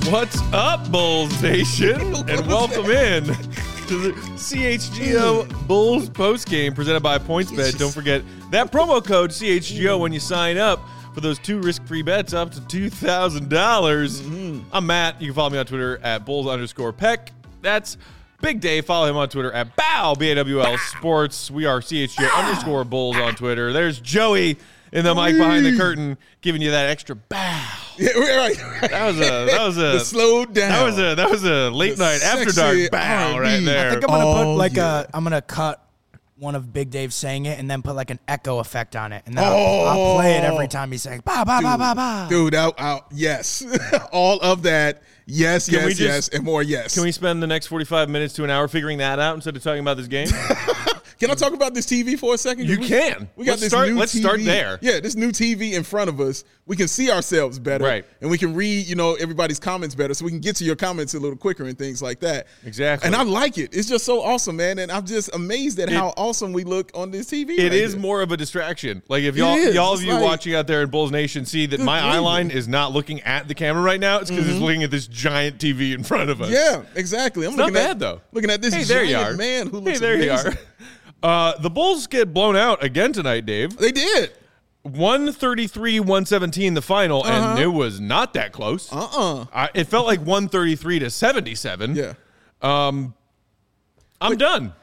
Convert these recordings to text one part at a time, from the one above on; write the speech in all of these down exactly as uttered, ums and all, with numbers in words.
What's up, Bulls Nation? And welcome in to the C H G O Bulls postgame presented by PointsBet. Don't forget that promo code C H G O when you sign up for those two risk-free bets up to two thousand dollars. Mm-hmm. I'm Matt. You can follow me on Twitter at Bulls underscore Peck. That's Big Dave. Follow him on Twitter at Bow, B A W L Sports. We are C H G O underscore Bulls on Twitter. There's Joey in the mic behind the curtain giving you that extra bow. Yeah, right. That was a that was a the slow down. That was a that was a late The night after dark bow right there. I think I'm gonna Oh, put like yeah. a I'm gonna cut one of Big Dave saying it and then put like an echo effect on it, and then Oh. I'll, I'll play it every time he's saying ba ba ba ba ba. Dude, I, I, yes. All of that. Yes, Can we yes, just- yes, and more yes. Can we spend the next forty-five minutes to an hour figuring that out instead of talking about this game? Can I talk about this T V for a second? You we, can. We got Let's this start- new let's T V. start there. Yeah, this new T V in front of us. We can see ourselves better. Right. And we can read, you know, everybody's comments better, so we can get to your comments a little quicker and things like that. Exactly. And I like it. It's just so awesome, man. And I'm just amazed at It- how awesome we look on this T V. It right is here. more of a distraction. Like if It y'all is. y'all of It's you like- watching out there in Bulls Nation see that Good my eye gravy. line is not looking at the camera right now, it's because it's looking at this giant T V in front of us. Yeah, exactly. I'm It's not looking bad at, though. Looking at this Hey, there giant you are. man who looks Hey, there amazing. you are. Uh, the Bulls get blown out again tonight, Dave. They did. one thirty-three one seventeen the final, and Uh-huh. it was not that close. Uh-uh. I, it felt like one thirty-three to seventy-seven. Yeah. Um, I'm done.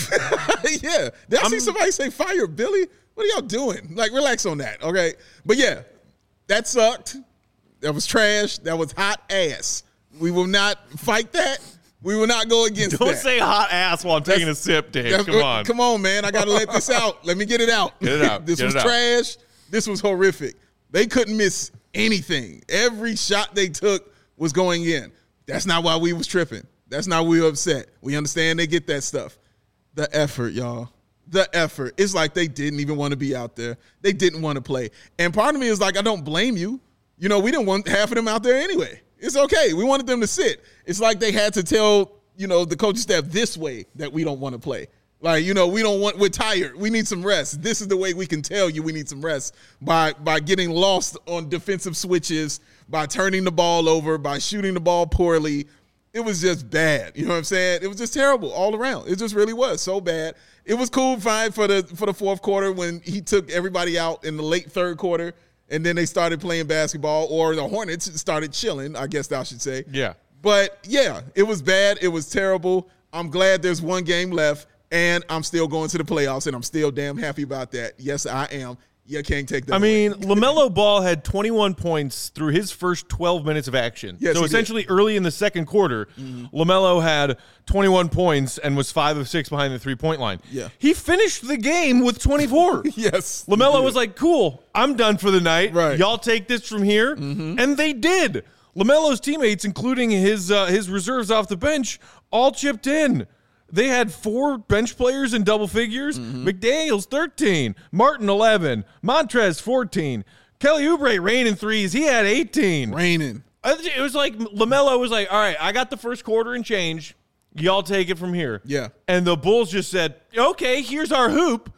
yeah. Did I see I'm- somebody say fire Billy? What are y'all doing? Like, relax on that, okay? But yeah, that sucked. That was trash. That was hot ass. We will not fight that. We will not go against Don't that. say hot ass while I'm taking a sip, Dave. That's- Come on. Come on, man. I got to let this out. Let me get it out. Get it out. This Get was it out. trash. This was horrific. They couldn't miss anything. Every shot they took was going in. That's not why we was tripping. That's not why we were upset. We understand they get that stuff. The effort, y'all. The effort. It's like they didn't even want to be out there. They didn't want to play. And part of me is like, I don't blame you. You know, we didn't want half of them out there anyway. It's okay. We wanted them to sit. It's like they had to tell, you know, the coaching staff this way that we don't want to play. Like, you know, we don't want, we're tired. We need some rest. This is the way we can tell you we need some rest by by getting lost on defensive switches, by turning the ball over, by shooting the ball poorly. It was just bad. You know what I'm saying? It was just terrible all around. It just really was so bad. It was cool, fine for the for the fourth quarter when he took everybody out in the late third quarter, and then they started playing basketball, or the Hornets started chilling, I guess I should say. Yeah. But, yeah, it was bad. It was terrible. I'm glad there's one game left, and I'm still going to the playoffs, and I'm still damn happy about that. Yes, I am. You can't take that I away. mean, LaMelo Ball had twenty-one points through his first twelve minutes of action. Yes, so he essentially early in the second quarter, LaMelo had twenty-one points and was five of six behind the three-point line. Yeah. He finished the game with twenty-four. Yes. LaMelo was like, cool, I'm done for the night. Right. Y'all take this from here. And they did. LaMelo's teammates, including his uh, his reserves off the bench, all chipped in. They had four bench players in double figures. McDaniels, thirteen. Martin, eleven. Montrez, fourteen. Kelly Oubre raining threes. He had eighteen. Raining. It was like LaMelo was like, all right, I got the first quarter and change. Y'all take it from here. Yeah. And the Bulls just said, okay, here's our hoop.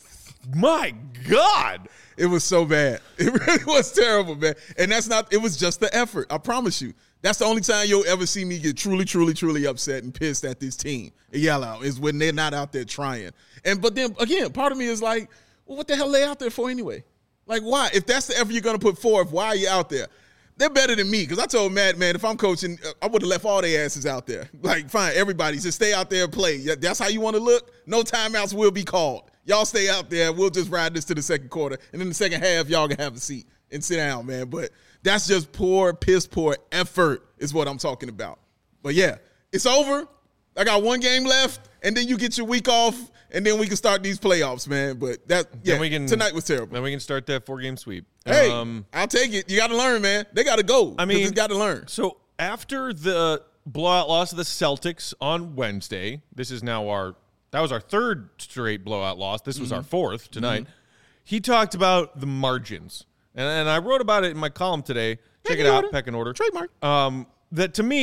My God. It was so bad. It really was terrible, man. And that's not, it was just the effort. I promise you. That's the only time you'll ever see me get truly, truly, truly upset and pissed at this team and yell out is when they're not out there trying. And but then again, part of me is like, well, what the hell are they out there for anyway? Like, why? If that's the effort you're going to put forth, why are you out there? They're better than me because I told Matt, man, if I'm coaching, I would have left all their asses out there. Like, fine, everybody, just stay out there and play. Yeah, that's how you want to look? No timeouts will be called. Y'all stay out there. We'll just ride this to the second quarter. And in the second half, y'all can have a seat and sit down, man. But that's just poor, piss poor effort is what I'm talking about. But, yeah, it's over. I got one game left, and then you get your week off, and then we can start these playoffs, man. But, that yeah, Then we can, tonight was terrible. Then we can start that four-game sweep. Hey, Um, I'll take it. You got to learn, man. They got to go. I mean, it's got to learn. So after the blowout loss of the Celtics on Wednesday, this is now our that was our third straight blowout loss. This was Mm-hmm. our fourth tonight. Mm-hmm. He talked about the margins, and, and I wrote about it in my column today. Check Pecking it out, order. Pecking Order. Trademark. Um, that to me,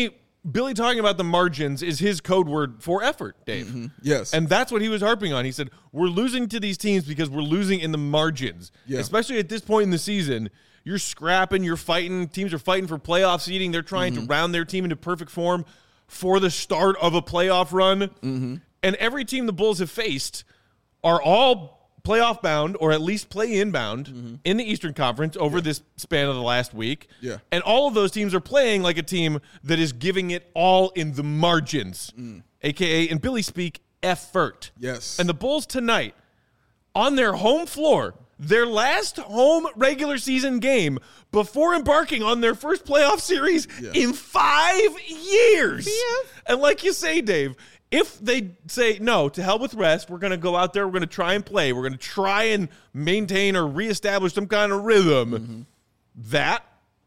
Billy talking about the margins is his code word for effort, Dave. Mm-hmm. Yes. And that's what he was harping on. He said, we're losing to these teams because we're losing in the margins. Yeah. Especially at this point in the season. You're scrapping, you're fighting. Teams are fighting for playoff seeding. They're trying mm-hmm. to round their team into perfect form for the start of a playoff run. Mm-hmm. And every team the Bulls have faced are all playoff bound or at least play inbound mm-hmm. in the Eastern Conference over yeah. this span of the last week. Yeah. And all of those teams are playing like a team that is giving it all in the margins, mm. a k a, in Billy speak, effort. Yes. And the Bulls tonight, on their home floor, their last home regular season game before embarking on their first playoff series yeah. in five years. Yeah. And like you say, Dave, if they say, no, to hell with rest, we're going to go out there, we're going to try and play, we're going to try and maintain or reestablish some kind of rhythm, mm-hmm. that,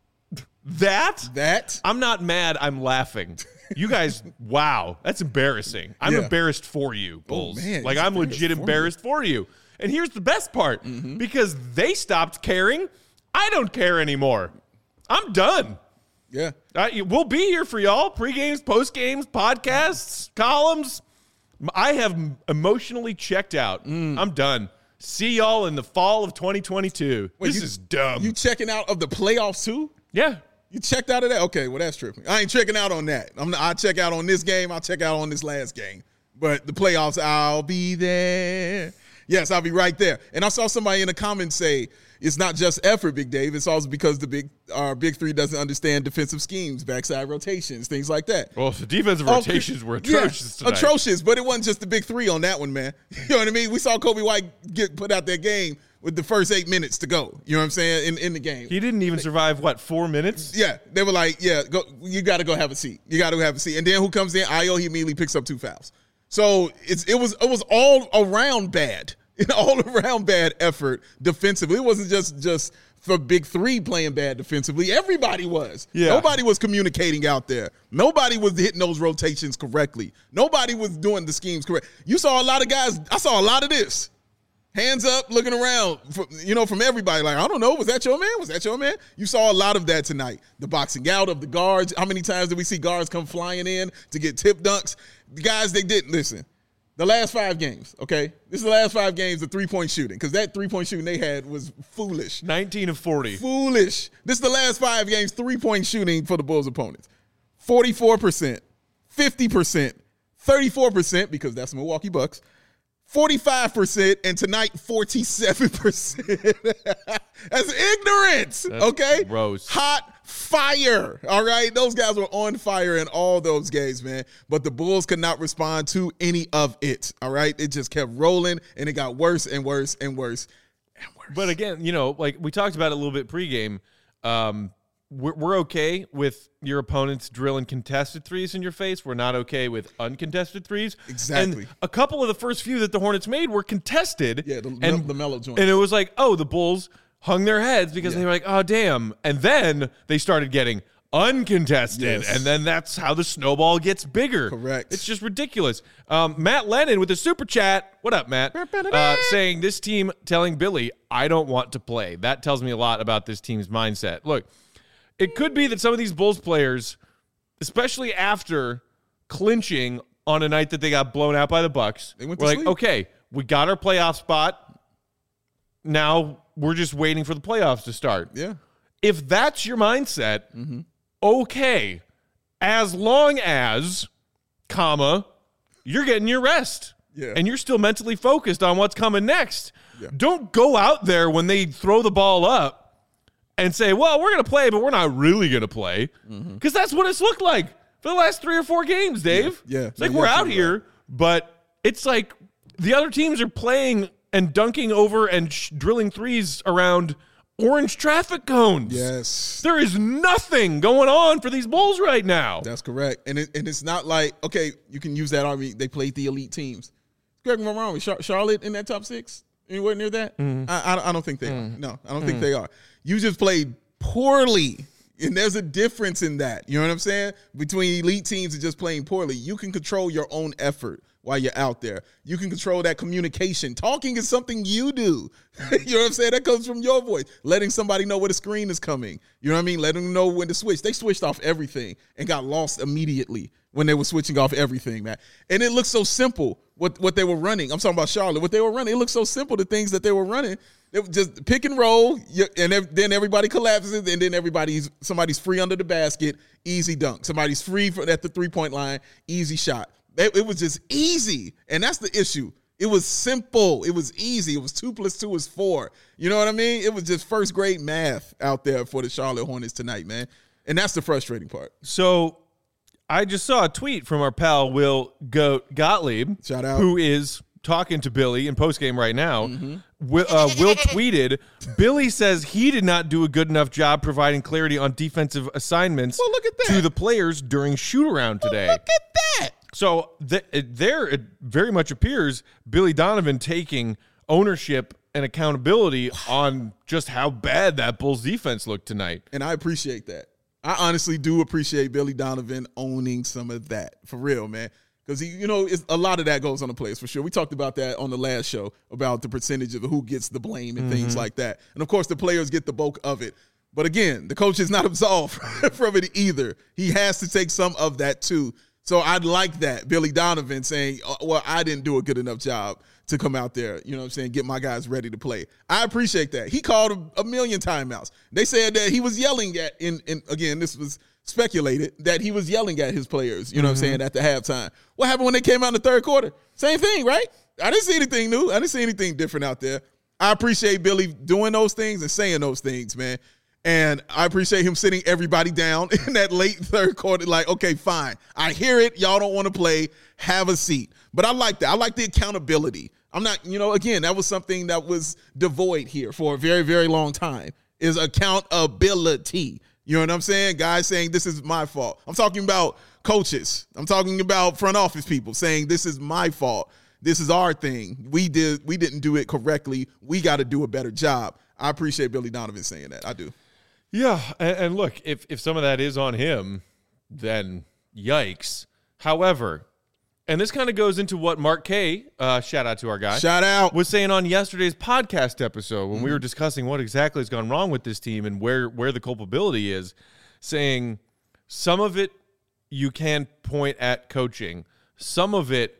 that, that, I'm not mad, I'm laughing. You guys, wow, that's embarrassing. I'm yeah. embarrassed for you, Bulls. Oh, man, like, I'm legit for embarrassed you. for you. And here's the best part, mm-hmm. because they stopped caring, I don't care anymore. I'm done. Yeah. Uh, we'll be here for y'all. Pre-games, post-games, podcasts, columns. I have emotionally checked out. Mm. I'm done. See y'all in the fall of twenty twenty-two. Wait, this you, is dumb. You checking out of the playoffs too? Yeah. You checked out of that? Okay, well, that's tripping. I ain't checking out on that. I'm, I'll check out on this game. I'll check out on this last game. But the playoffs, I'll be there. Yes, I'll be right there. And I saw somebody in the comments say, it's not just effort, Big Dave. It's also because the big our big three doesn't understand defensive schemes, backside rotations, things like that. Well, the defensive rotations oh, were atrocious yeah, tonight. Atrocious, but it wasn't just the big three on that one, man. You know what I mean? We saw Kobe White get put out that game with the first eight minutes to go. You know what I'm saying? In in the game. He didn't even survive, what, four minutes? Yeah. They were like, yeah, go. You got to go have a seat. You got to have a seat. And then who comes in? Ayo, he immediately picks up two fouls. So it's it was it was all around bad. An all-around bad effort defensively. It wasn't just just for Big Three playing bad defensively. Everybody was. Yeah. Nobody was communicating out there. Nobody was hitting those rotations correctly. Nobody was doing the schemes correct. You saw a lot of guys. I saw a lot of this. Hands up, looking around, from, you know, from everybody. Like, I don't know, was that your man? Was that your man? You saw a lot of that tonight. The boxing out of the guards. How many times did we see guards come flying in to get tip dunks? The guys, they didn't listen. The last five games, okay? This is the last five games of three-point shooting because that three-point shooting they had was foolish. nineteen of forty. Foolish. This is the last five games, three-point shooting for the Bulls' opponents. forty-four percent, fifty percent, thirty-four percent because that's the Milwaukee Bucks, forty-five percent, and tonight, forty-seven percent. That's ignorance, that's okay? Gross. Hot fire, all right? Those guys were on fire in all those games, man. But the Bulls could not respond to any of it, all right? It just kept rolling, and it got worse and worse and worse and worse. But again, you know, like we talked about it a little bit pregame, um, we're, we're okay with your opponents drilling contested threes in your face. We're not okay with uncontested threes. Exactly. And a couple of the first few that the Hornets made were contested. Yeah, the, and, the mellow joint. And it was like, oh, the Bulls hung their heads because yeah. they were like, oh, damn. And then they started getting uncontested. Yes. And then that's how the snowball gets bigger. Correct. It's just ridiculous. Um, Matt Lennon with a super chat. What up, Matt? Uh, saying this team telling Billy, I don't want to play. That tells me a lot about this team's mindset. Look, it could be that some of these Bulls players, especially after clinching on a night that they got blown out by the Bucks, they went were to like, sleep. okay, we got our playoff spot. Now we're just waiting for the playoffs to start. Yeah. If that's your mindset, mm-hmm. okay, as long as, comma, you're getting your rest. Yeah. And you're still mentally focused on what's coming next. Yeah. Don't go out there when they throw the ball up and say, well, we're going to play, but we're not really going to play. Because mm-hmm. that's what it's looked like for the last three or four games, Dave. Yeah. yeah. It's like yeah, we're yeah, out here, right. But it's like the other teams are playing and dunking over and sh- drilling threes around orange traffic cones. Yes. There is nothing going on for these Bulls right now. That's correct. And it, and it's not like, okay, you can use that argument. They played the elite teams. Correct me if I'm wrong. Char- Charlotte in that top six? Anywhere near that? Mm. I, I, I don't think they mm. are. No, I don't mm. think they are. You just played poorly. And there's a difference in that. You know what I'm saying? Between elite teams and just playing poorly. You can control your own effort while you're out there. You can control that communication. Talking is something you do. You know what I'm saying? That comes from your voice. Letting somebody know where the screen is coming. You know what I mean? Letting them know when to switch. They switched off everything and got lost immediately when they were switching off everything, man. And it looked so simple what, what they were running. I'm talking about Charlotte. What they were running, it looked so simple, the things that they were running. It was just pick and roll, and then everybody collapses, and then everybody's somebody's free under the basket, easy dunk. Somebody's free for, at the three-point line, easy shot. It, it was just easy, and that's the issue. It was simple. It was easy. It was two plus two is four. You know what I mean? It was just first-grade math out there for the Charlotte Hornets tonight, man, and that's the frustrating part. So I just saw a tweet from our pal Will Goat Gottlieb, Shout out. who is talking to Billy in postgame right now. Mm-hmm. Will, uh, Will tweeted, Billy says he did not do a good enough job providing clarity on defensive assignments well, look at that. to the players during shoot-around today. Well, look at that. So th- there it very much appears Billy Donovan taking ownership and accountability on just how bad that Bulls defense looked tonight. And I appreciate that. I honestly do appreciate Billy Donovan owning some of that. For real, man. Because, you know, it's, a lot of that goes on the players, for sure. We talked about that on the last show, about the percentage of who gets the blame and mm-hmm. things like that. And, of course, the players get the bulk of it. But, again, the coach is not absolved from it either. He has to take some of that, too. So I'd like that, Billy Donovan saying, oh, well, I didn't do a good enough job to come out there, you know what I'm saying, get my guys ready to play. I appreciate that. He called a, a million timeouts. They said that he was yelling at, in, in again, this was speculated, that he was yelling at his players, you know mm-hmm. what I'm saying, at the halftime. What happened when they came out in the third quarter? Same thing, right? I didn't see anything new. I didn't see anything different out there. I appreciate Billy doing those things and saying those things, man. And I appreciate him sitting everybody down in that late third quarter, like, okay, fine. I hear it. Y'all don't want to play. Have a seat. But I like that. I like the accountability. I'm not, you know, again, that was something that was devoid here for a very, very long time, is accountability. You know what I'm saying? Guys saying this is my fault. I'm talking about coaches. I'm talking about front office people saying this is my fault. This is our thing. We did. We didn't do it correctly. We got to do a better job. I appreciate Billy Donovan saying that. I do. Yeah, and, and look, if, if some of that is on him, then yikes. However, and this kind of goes into what Mark K, uh, shout out to our guy, shout out, was saying on yesterday's podcast episode when mm-hmm. we were discussing what exactly has gone wrong with this team and where, where the culpability is, saying some of it you can point at coaching. Some of it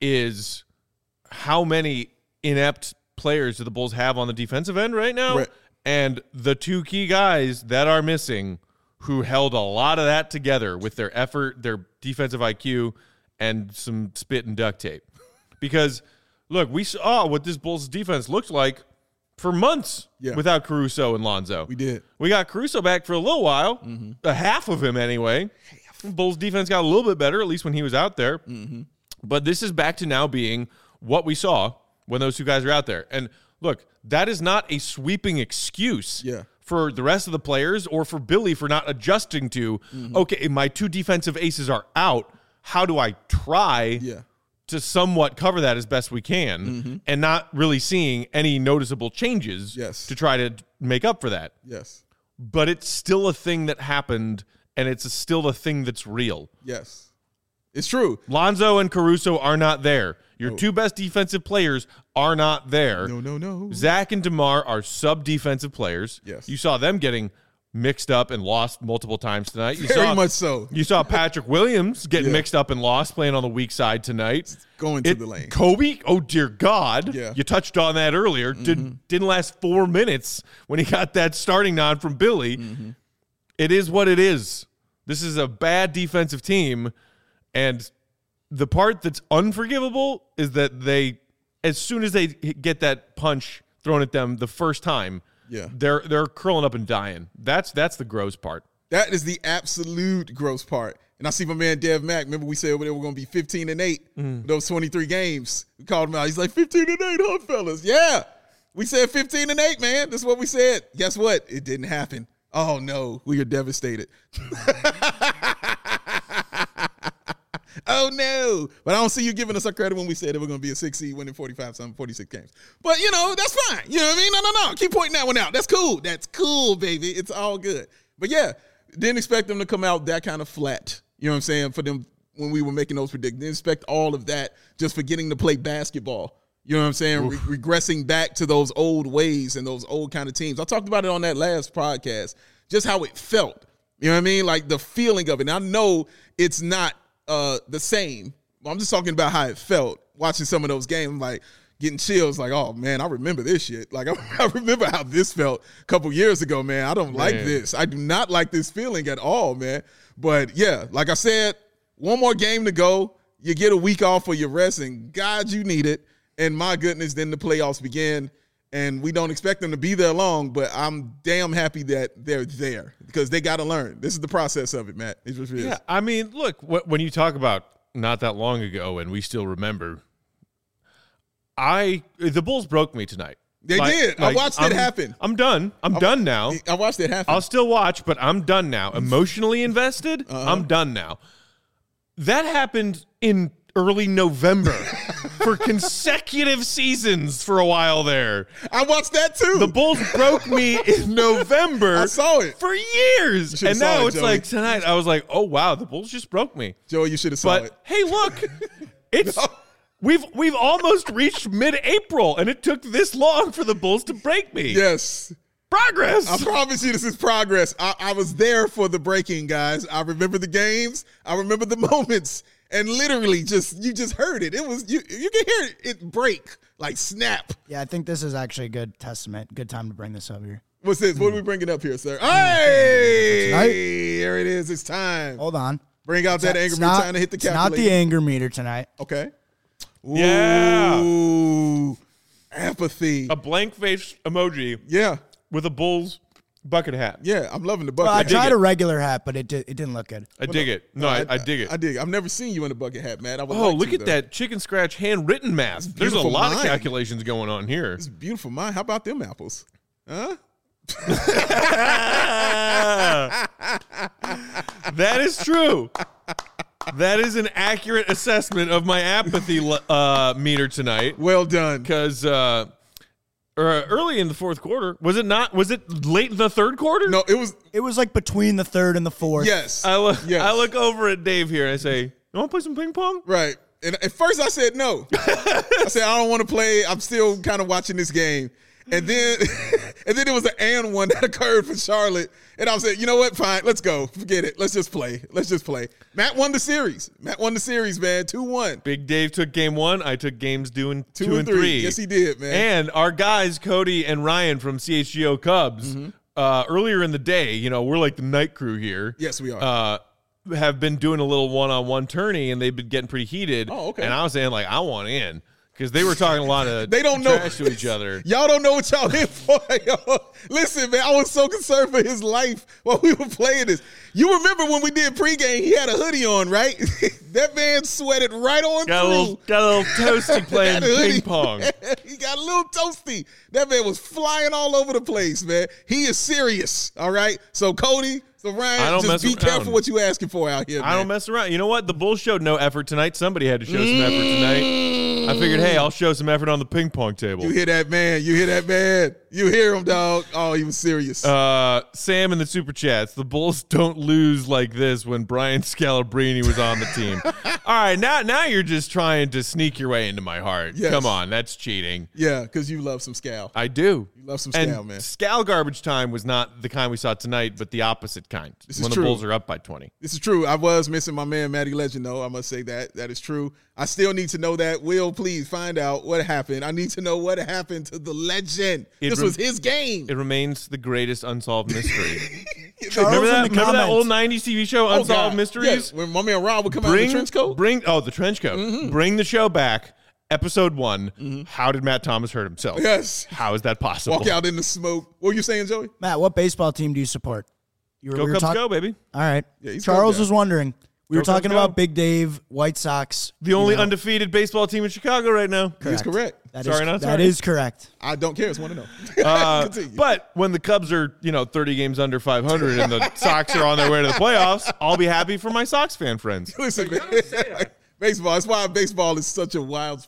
is how many inept players do the Bulls have on the defensive end right now? Right. And the two key guys that are missing who held a lot of that together with their effort, their defensive I Q, and some spit and duct tape. Because, look, we saw what this Bulls defense looked like for months yeah. without Caruso and Lonzo. We did. We got Caruso back for a little while, mm-hmm. a half of him anyway. Half. Bulls defense got a little bit better, at least when he was out there. Mm-hmm. But this is back to now being what we saw when those two guys are out there. And look, that is not a sweeping excuse yeah. for the rest of the players or for Billy for not adjusting to, mm-hmm. okay, my two defensive aces are out. How do I try yeah. to somewhat cover that as best we can mm-hmm. and not really seeing any noticeable changes yes. to try to make up for that? Yes. But it's still a thing that happened, and it's a, still a thing that's real. Yes. It's true. Lonzo and Caruso are not there. Your no. two best defensive players are not there. No, no, no. Zach and DeMar are sub-defensive players. Yes. You saw them getting mixed up and lost multiple times tonight. You Very saw, much so. You saw Patrick Williams getting yeah. mixed up and lost, playing on the weak side tonight. Going to it, the lane. Kobe, oh dear God. Yeah. You touched on that earlier. Mm-hmm. Did, didn't last four minutes when he got that starting nod from Billy. Mm-hmm. It is what it is. This is a bad defensive team, and the part that's unforgivable is that they, as soon as they get that punch thrown at them the first time, yeah. they're they're curling up and dying. That's that's the gross part. That is the absolute gross part. And I see my man Dev Mack. Remember we said they were going to be fifteen and eight mm. those twenty-three games. We called him out. He's like, fifteen and eight, huh, fellas? Yeah. We said fifteen and eight, man. That's what we said. Guess what? It didn't happen. Oh, no. We are devastated. Oh, no. But I don't see you giving us our credit when we said it was going to be a six seed winning forty-five, something, forty-six games. But, you know, that's fine. You know what I mean? No, no, no. Keep pointing that one out. That's cool. That's cool, baby. It's all good. But, yeah, didn't expect them to come out that kind of flat. You know what I'm saying? For them when we were making those predictions. Didn't expect all of that just for getting to play basketball. You know what I'm saying? Re- regressing back to those old ways and those old kind of teams. I talked about it on that last podcast, just how it felt. You know what I mean? Like the feeling of it. And I know it's not uh, the same. I'm just talking about how it felt watching some of those games. I'm like getting chills like, oh, man, I remember this shit. Like, I, I remember how this felt a couple years ago, man. I don't man. like this. I do not like this feeling at all, man. But, yeah, like I said, one more game to go. You get a week off for your rest, and God, you need it. And my goodness, then the playoffs begin, and we don't expect them to be there long, but I'm damn happy that they're there because they got to learn. This is the process of it, Matt. It just is. Yeah, I mean, look, wh- when you talk about not that long ago and we still remember, I the Bulls broke me tonight. They like, did. Like, I watched I'm, it happen. I'm done. I'm I, done now. I watched it happen. I'll still watch, but I'm done now. Emotionally invested, uh-huh. I'm done now. That happened in early November for consecutive seasons for a while there. I watched that too. The Bulls broke me in November. I saw it. For years. And now it, it's Joey. Like tonight, I was like, oh, wow, the Bulls just broke me. Joey, you should have saw but, it. Hey, look, it's no. we've we've almost reached mid-April, and it took this long for the Bulls to break me. Yes. Progress. I promise you this is progress. I, I was there for the breaking, guys. I remember the games. I remember the moments. And literally, just you just heard it. It was you. You can hear it, it break, like snap. Yeah, I think this is actually a good testament. Good time to bring this up here. What's this? Mm. What are we bringing up here, sir? Hey, tonight? There it is. It's time. Hold on. Bring out it's that not, anger meter. Not, time to hit the it's calculator. not the anger meter tonight. Okay. Ooh, yeah. Apathy. A blank face emoji. Yeah. With a Bulls bucket hat. Yeah, I'm loving the bucket well, I hat. I tried a regular hat, but it did, it didn't look good. I well, dig no, it. No, no I, I dig it. I dig it. I've never seen you in a bucket hat, man. I would oh, like look to, at though. that chicken scratch handwritten math. There's a lot mind. of calculations going on here. It's beautiful mind. How about them apples? Huh? That is true. That is an accurate assessment of my apathy uh, meter tonight. Well done. Because uh, uh, early in the fourth quarter, was it not? Was it late in the third quarter? No, it was. It was like between the third and the fourth. Yes. I look. Yes. I look over at Dave here and I say, "You want to play some ping pong?" Right. And at first I said no. I said I don't want to play. I'm still kind of watching this game. And then, and then there was an and one that occurred for Charlotte. And I was like, you know what? Fine. Let's go. Forget it. Let's just play. Let's just play. Matt won the series. Matt won the series, man. two one. Big Dave took game one. I took games doing two, two and, and three. three. Yes, he did, man. And our guys, Cody and Ryan from C H G O Cubs, mm-hmm. uh, earlier in the day, you know, we're like the night crew here. Yes, we are. Uh, have been doing a little one-on-one tourney, and they've been getting pretty heated. Oh, okay. And I was saying, like, I want in. Because they were talking a lot of they don't trash know. to each other. Y'all don't know what y'all in for. Yo. Listen, man, I was so concerned for his life while we were playing this. You remember when we did pregame, he had a hoodie on, right? That man sweated right on got through. A little, got a little toasty playing ping pong. He got a little toasty. That man was flying all over the place, man. He is serious, all right? So, Cody, so Ryan, I don't just mess be around. careful what you asking for out here, man. I don't mess around. You know what? The Bulls showed no effort tonight. Somebody had to show some effort tonight. I figured, hey, I'll show some effort on the ping pong table. You hear that, man? You hear that, man? You hear him, dog. Oh, he was serious. Uh, Sam in the Super Chats. The Bulls don't lose like this when Brian Scalabrine was on the team. All right, now now you're just trying to sneak your way into my heart. Yes. Come on, that's cheating. Yeah, because you love some Scal. I do. You love some and Scal, man. Scal garbage time was not the kind we saw tonight, but the opposite kind. This is when true. the Bulls are up by twenty. This is true. I was missing my man, Matty Legend, though. I must say that. That is true. I still need to know that. Will, please find out what happened. I need to know what happened to the legend. It this rem- was his game. It remains the greatest unsolved mystery. Charles remember that? in the Remember that comments. old nineties T V show, Oh, Unsolved God. Mysteries? Yes, when my man Rob would come out Bring in the trench coat. Bring oh the trench coat. Mm-hmm. Bring the show back. Episode one. Mm-hmm. How did Matt Thomas hurt himself? Yes. How is that possible? Walk out in the smoke. What were you saying, Joey? Matt, what baseball team do you support? You were, Go we were Cubs, talk- go, baby. All right. Yeah, he's Charles Cubs was guy. wondering. We Go were talking Cubs, go. about Big Dave, White Sox. The only you know. undefeated baseball team in Chicago right now. He's correct. That Sorry, is, not that sorry. is correct. I don't care. It's one to know. Uh, Continue. but when the Cubs are, you know, thirty games under five hundred and the Sox are on their way to the playoffs, I'll be happy for my Sox fan friends. Listen, man. Baseball. That's why baseball is such a wild sport.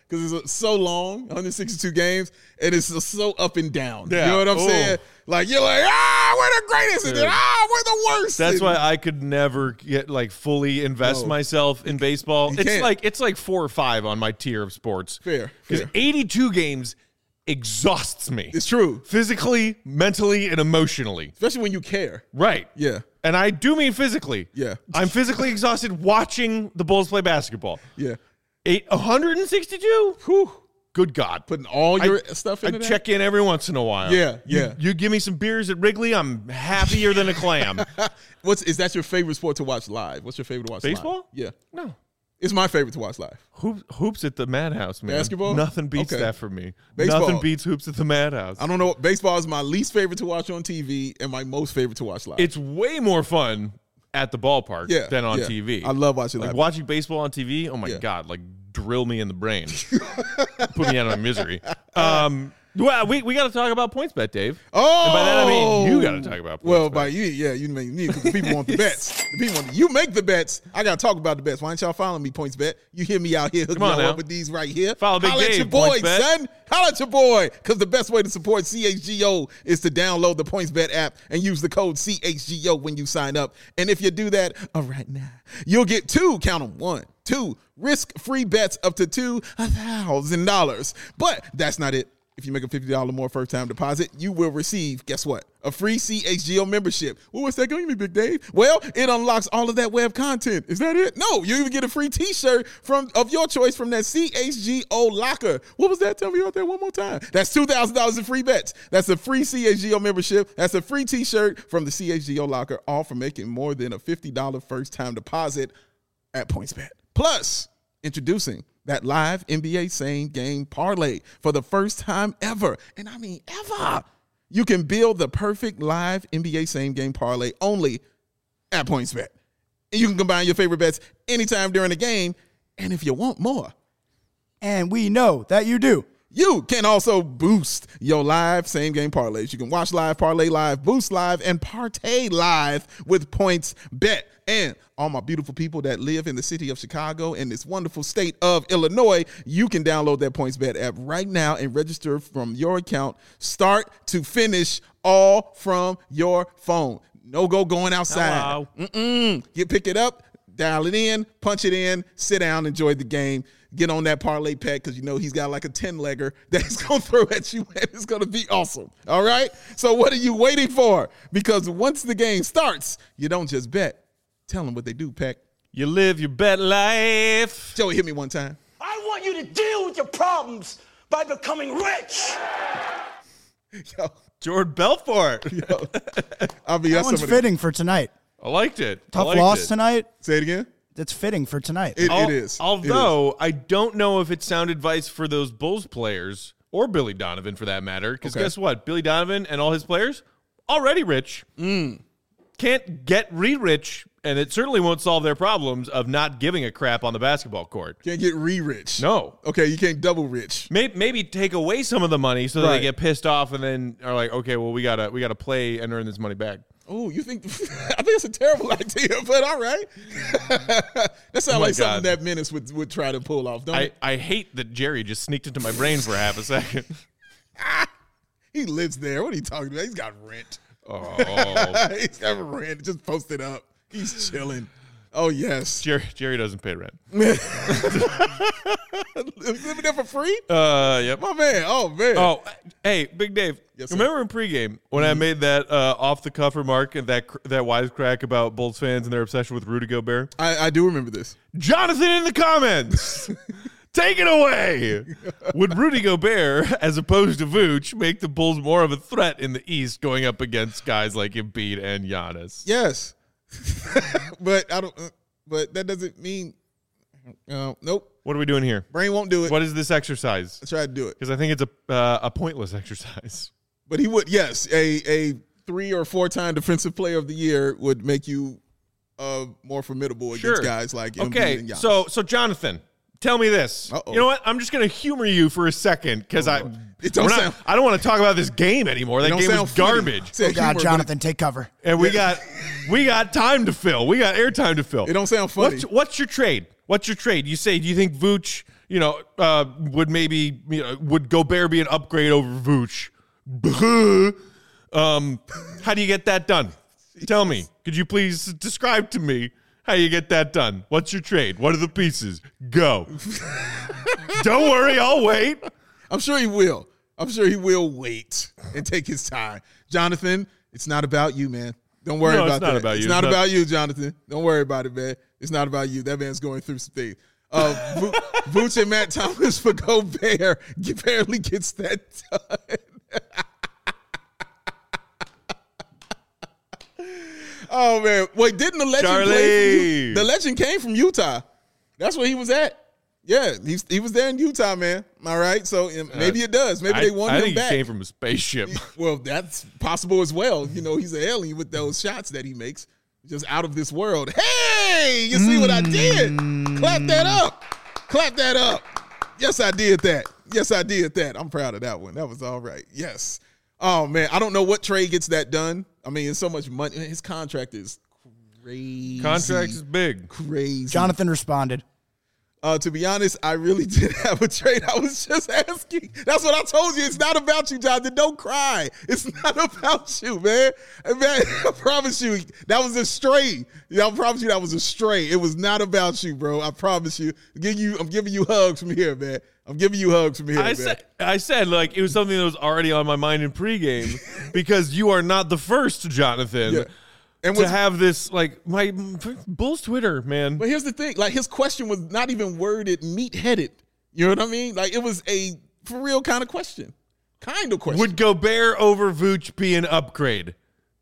because it's so long, one hundred sixty-two games, and it's so up and down. Yeah. You know what I'm Ooh. saying? Like, you're like, ah, we're the greatest, and then, ah, we're the worst. That's and, why I could never get like fully invest No. myself in baseball. You It's can't. like it's like four or five on my tier of sports. Fair, Because fair. eighty-two games exhausts me. It's true, Physically, mentally, and emotionally. especially when you care. Right. Yeah, And I do mean physically. Yeah. I'm physically exhausted watching the Bulls play basketball. yeah. Eight, one hundred sixty-two? Whew. Good God. Putting all your I- stuff I into that? check in every once in a while. Yeah, You- yeah. You give me some beers at Wrigley, I'm happier than a clam. What's is that your favorite sport to watch live? What's your favorite to watch live? Baseball? Yeah. No. It's my favorite to watch live. Hoop, hoops at the Madhouse, man. Basketball? Nothing beats Okay. that for me. Baseball. Nothing beats hoops at the Madhouse. I don't know. Baseball is my least favorite to watch on T V and my most favorite to watch live. It's way more fun at the ballpark Yeah, than on yeah. T V. I love watching like live. watching baseball on T V. Oh my Yeah. God, like drill me in the brain, put me out of my misery. Um, well, we, we got to talk about PointsBet, Dave. Oh, And by that I mean you got to talk about PointsBet. Well, by you, yeah, you make me because the people want the bets. The people want you make the bets. I got to talk about the bets. Why don't y'all follow me, PointsBet? You hear me out here hooking Come on y'all now. up with these right here. Follow Big Holla at Dave, your boy, PointsBet. son. Holla at your boy. Because the best way to support C H G O is to download the PointsBet app and use the code C H G O when you sign up. And if you do that, all right now, you'll get two, count them, one, two, risk-free bets up to two thousand dollars. But that's not it. If you make a fifty dollars or more first-time deposit, you will receive, guess what? A free C H G O membership. Well, what's that going to be, Big Dave? Well, it unlocks all of that web content. Is that it? No, you even get a free T-shirt from of your choice from that C H G O locker. What was that? Tell me about that one more time. That's two thousand dollars in free bets. That's a free C H G O membership. That's a free T-shirt from the C H G O locker, all for making more than a fifty dollars first-time deposit at PointsBet. Plus, introducing that live N B A same game parlay for the first time ever. And I mean ever. You can build the perfect live N B A same game parlay only at PointsBet. And you can combine your favorite bets anytime during the game. And if you want more, And we know that you do. you can also boost your live same game parlays. You can watch live, parlay live, boost live, and partay live with PointsBet. And all my beautiful people that live in the city of Chicago and this wonderful state of Illinois, you can download that PointsBet app right now and register from your account, start to finish, all from your phone. No go going outside. Hello. Mm-mm. You pick it up, dial it in, punch it in, sit down, enjoy the game. Get on that parlay pack because you know he's got like a ten-legger that he's going to throw at you, and it's going to be awesome. All right? So what are you waiting for? Because once the game starts, you don't just bet. Tell them what they do, Pack. You live your bet life. Joey, hit me one time. I want you to deal with your problems by becoming rich. Yo, Jordan Belfort. yo. I mean, That that's one's some of the- fitting for tonight. I liked it. I Tough liked loss it. tonight. Say it again. That's fitting for tonight. It, Al- it is. It Although I don't know if it's sound advice for those Bulls players or Billy Donovan for that matter. Because Okay. guess what? Billy Donovan and all his players already rich. Mm. Can't get re-rich, and it certainly won't solve their problems of not giving a crap on the basketball court. Can't get re-rich. No. Okay, you can't double rich. Maybe, maybe take away some of the money so that Right. they get pissed off and then are like, okay, well, we gotta we gotta play and earn this money back. Oh, you think? I think it's a terrible idea, but all right. That sounds Oh my like something God. that Menace would, would try to pull off, don't I, it? I hate that Jerry just sneaked into my brain for half a second. He lives there. What are you talking about? He's got rent. Oh, He's got rent. Just post it up. He's chilling. Oh, yes. Jerry, Jerry doesn't pay rent. Living there for free? Uh, yep. My man. Oh, man. Oh, hey, Big Dave. Yes, sir. remember in pregame when I made that uh, off the cuff remark and that cr- that wisecrack about Bulls fans and their obsession with Rudy Gobert? I, I do remember this. Jonathan in the comments. Take it away. Would Rudy Gobert, as opposed to Vooch, make the Bulls more of a threat in the East going up against guys like Embiid and Giannis? Yes. but I don't. Uh, but that doesn't mean. Uh, nope. What are we doing here? Brain won't do it. What is this exercise? I tried to do it. Because I think it's a uh, a pointless exercise. But he would, yes, a a three or four time defensive player of the year would make you uh, more formidable against Sure. guys like Embiid Okay, and Giannis. so so Jonathan, tell me this. Uh-oh. You know what? I'm just going to humor you for a second because I It don't we're not- sound- I don't want to talk about this game anymore. That It don't game sound was funny. garbage, Say Oh, God, humor, but Jonathan, take cover. and we got we got time to fill. We got airtime to fill. It don't sound funny. What's, what's your trade? What's your trade? You say? Do you think Vooch you know, uh, would maybe, you know, would Gobert be an upgrade over Vooch? um, how do you get that done? Tell me. Could you please describe to me how you get that done? What's your trade? What are the pieces? Go. Don't worry, I'll wait. I'm sure he will. I'm sure he will wait and take his time. Jonathan, it's not about you, man. Don't worry No, about it's not that. about you. It's It's not not- about you, Jonathan. Don't worry about it, man. It's not about you. That man's going through some things. Uh, Vo- Vooch and Matt Thomas for Gobert barely gets that done. Oh, man. Wait, didn't the legend play from Charlie. U- The legend came from Utah. That's where he was at. Yeah, he's, he was there in Utah, man. All right, so um, maybe it does. Maybe I, they won I him think back. he came from a spaceship. Well, that's possible as well. You know, he's an alien with those shots that he makes. Just out of this world. Hey, you see what I did? Clap that up. Clap that up. Yes, I did that. Yes, I did that. I'm proud of that one. That was all right. Yes. Oh, man. I don't know what trade gets that done. I mean, it's so much money. His contract is crazy. Contract is big. Crazy. Jonathan responded. Uh, to be honest, I really did have a trade. I was just asking. That's what I told you. It's not about you, Jonathan. Don't cry. It's not about you, man. And man, I promise you, that was a stray. Yeah, I promise you that was a stray. It was not about you, bro. I promise you. I'm giving you, I'm giving you hugs from here, man. I'm giving you hugs from here, I man. said, I said, like, it was something that was already on my mind in pregame because you are not the first, Jonathan, Yeah. And to what's- have this, like, my Bulls Twitter, man. But here's the thing. Like, his question was not even worded meat-headed. You know what I mean? Like, it was a for real kind of question. Kind of question. Would Gobert over Vooch be an upgrade?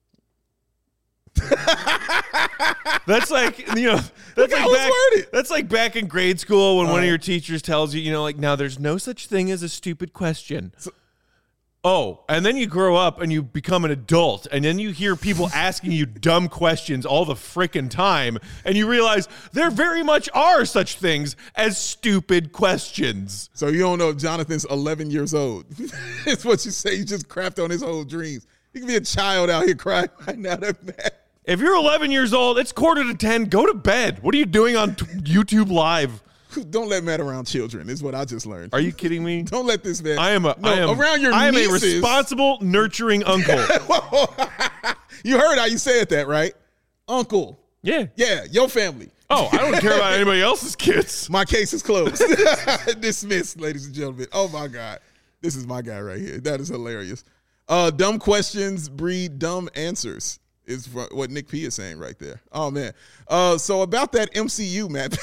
That's like, you know, that's how like, it's back, worded. that's like back in grade school when one Uh. of your teachers tells you, you know, like, now there's no such thing as a stupid question. Oh, and then you grow up and you become an adult, and then you hear people asking you dumb questions all the frickin' time, and you realize there very much are such things as stupid questions. So you don't know if Jonathan's eleven years old. It's what you say. You just crapped on his whole dreams. He could be a child out here crying right now. That man. If you're eleven years old, it's quarter to ten. Go to bed. What are you doing on t- YouTube Live? Don't let Matt around children, is what I just learned. Are you kidding me? Don't let this man. I am a. No, I am, around your I am nieces. a responsible, nurturing uncle. You heard how you said that, right? Uncle. Yeah. Yeah, your family. Oh, I don't care about anybody else's kids. My case is closed. Dismissed, ladies and gentlemen. Oh, my God. This is my guy right here. That is hilarious. Uh, dumb questions breed dumb answers is what Nick P is saying right there. Oh, man. Uh, so about that M C U, Matt.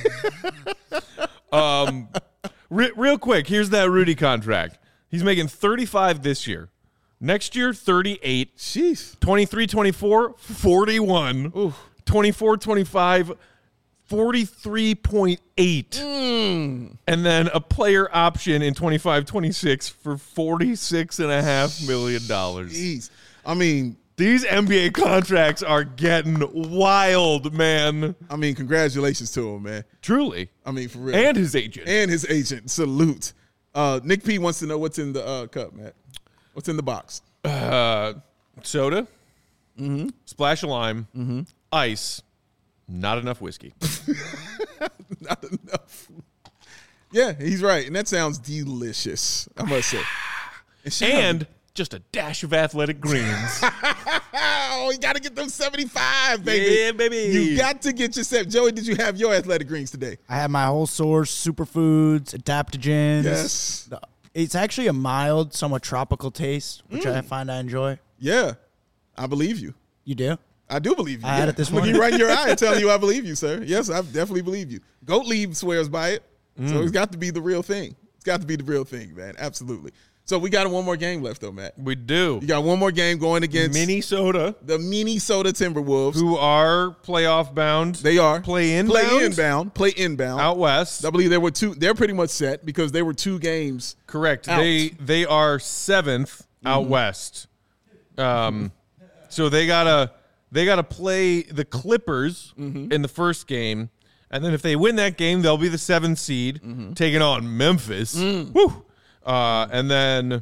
Um, re- real quick, here's that Rudy contract. He's making thirty-five this year. Next year, thirty-eight. Jeez. twenty-three twenty-four, forty-one. twenty-four twenty-five, forty-three point eight. Mm. And then a player option in twenty-five twenty-six for forty-six point five million dollars. Jeez. I mean, These N B A contracts are getting wild, man. I mean, congratulations to him, man. Truly. I mean, for real. And his agent. and his agent. Salute. Uh, Nick P wants to know what's in the uh, cup, Matt. What's in the box? Uh, soda, Mm-hmm. splash of lime, ice, not enough whiskey. Not enough. Yeah, he's right, and that sounds delicious. I must say. And, she- And just a dash of athletic greens. oh, you got to get them seventy-five, baby. Yeah, baby. You got to get yourself. Joey, did you have your athletic greens today? I have my whole source, superfoods, adaptogens. Yes. It's actually a mild, somewhat tropical taste, which Mm. I find I enjoy. Yeah, I believe you. You do? I do believe you. I had it this Look you morning. right in your eye and telling you I believe you, sir. Yes, I definitely believe you. Gottlieb swears by it, so it's got to be the real thing. It's got to be the real thing, man. Absolutely. So we got one more game left, though, Matt. We do. You got one more game going against Minnesota, the Minnesota Timberwolves. who are playoff bound. They are Play in play bound? inbound, play inbound. out west. I believe there were two. They're pretty much set because they were two games. Correct. Out. They they are seventh out west. Um, so they gotta they gotta play the Clippers in the first game, and then if they win that game, they'll be the seventh seed, taking on Memphis. Woo! Uh, and then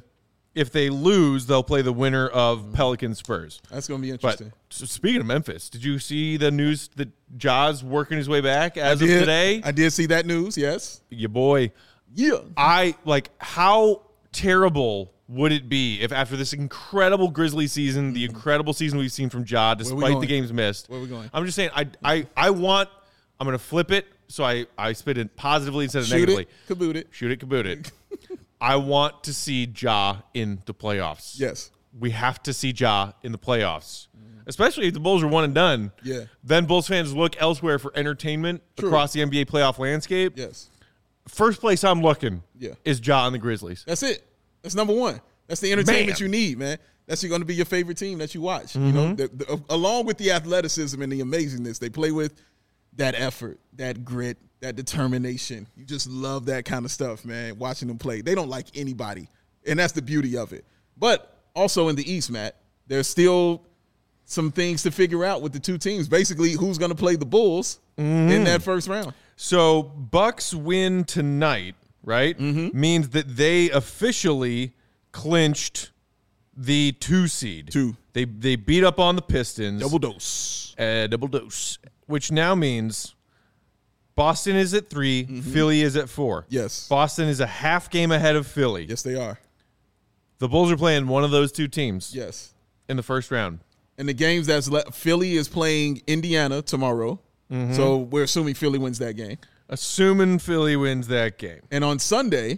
If they lose, they'll play the winner of Pelicans Spurs. That's going to be But interesting. so speaking of Memphis, did you see the news that Ja's working his way back as I of did, today? I did see that news, yes. Your boy. Yeah. I like how terrible would it be if after this incredible Grizzly season, the incredible season we've seen from Ja, despite going? the games missed. Where we going? I'm just saying, I I I want. I'm gonna flip it so I I spit it positively instead of Shoot negatively. it, kaboot it. Shoot it, kaboot it. I want to see Ja in the playoffs. Yes. We have to see Ja in the playoffs, especially if the Bulls are one and done. Yeah. Then Bulls fans look elsewhere for entertainment True. across the N B A playoff landscape. Yes. First place I'm looking Yeah. is Ja and the Grizzlies. That's it. That's number one. That's the entertainment Man. you need, man. That's going to be your favorite team that you watch. You know, the, the, along with the athleticism and the amazingness they play with, that effort, that grit, that determination. You just love that kind of stuff, man. Watching them play, they don't like anybody, and that's the beauty of it. But also in the East, Matt, there's still some things to figure out with the two teams. Basically, who's going to play the Bulls in that first round? So Bucks win tonight, right? Mm-hmm. Means that they officially clinched the two seed. Two. They they beat up on the Pistons. Double dose. Uh, double dose. Which now means Boston is at three, Philly is at four. Mm-hmm. Yes. Boston is a half game ahead of Philly. Yes, they are. The Bulls are playing one of those two teams Yes. in the first round. And the games that's left, Philly is playing Indiana tomorrow. Mm-hmm. So we're assuming Philly wins that game. Assuming Philly wins that game. And on Sunday,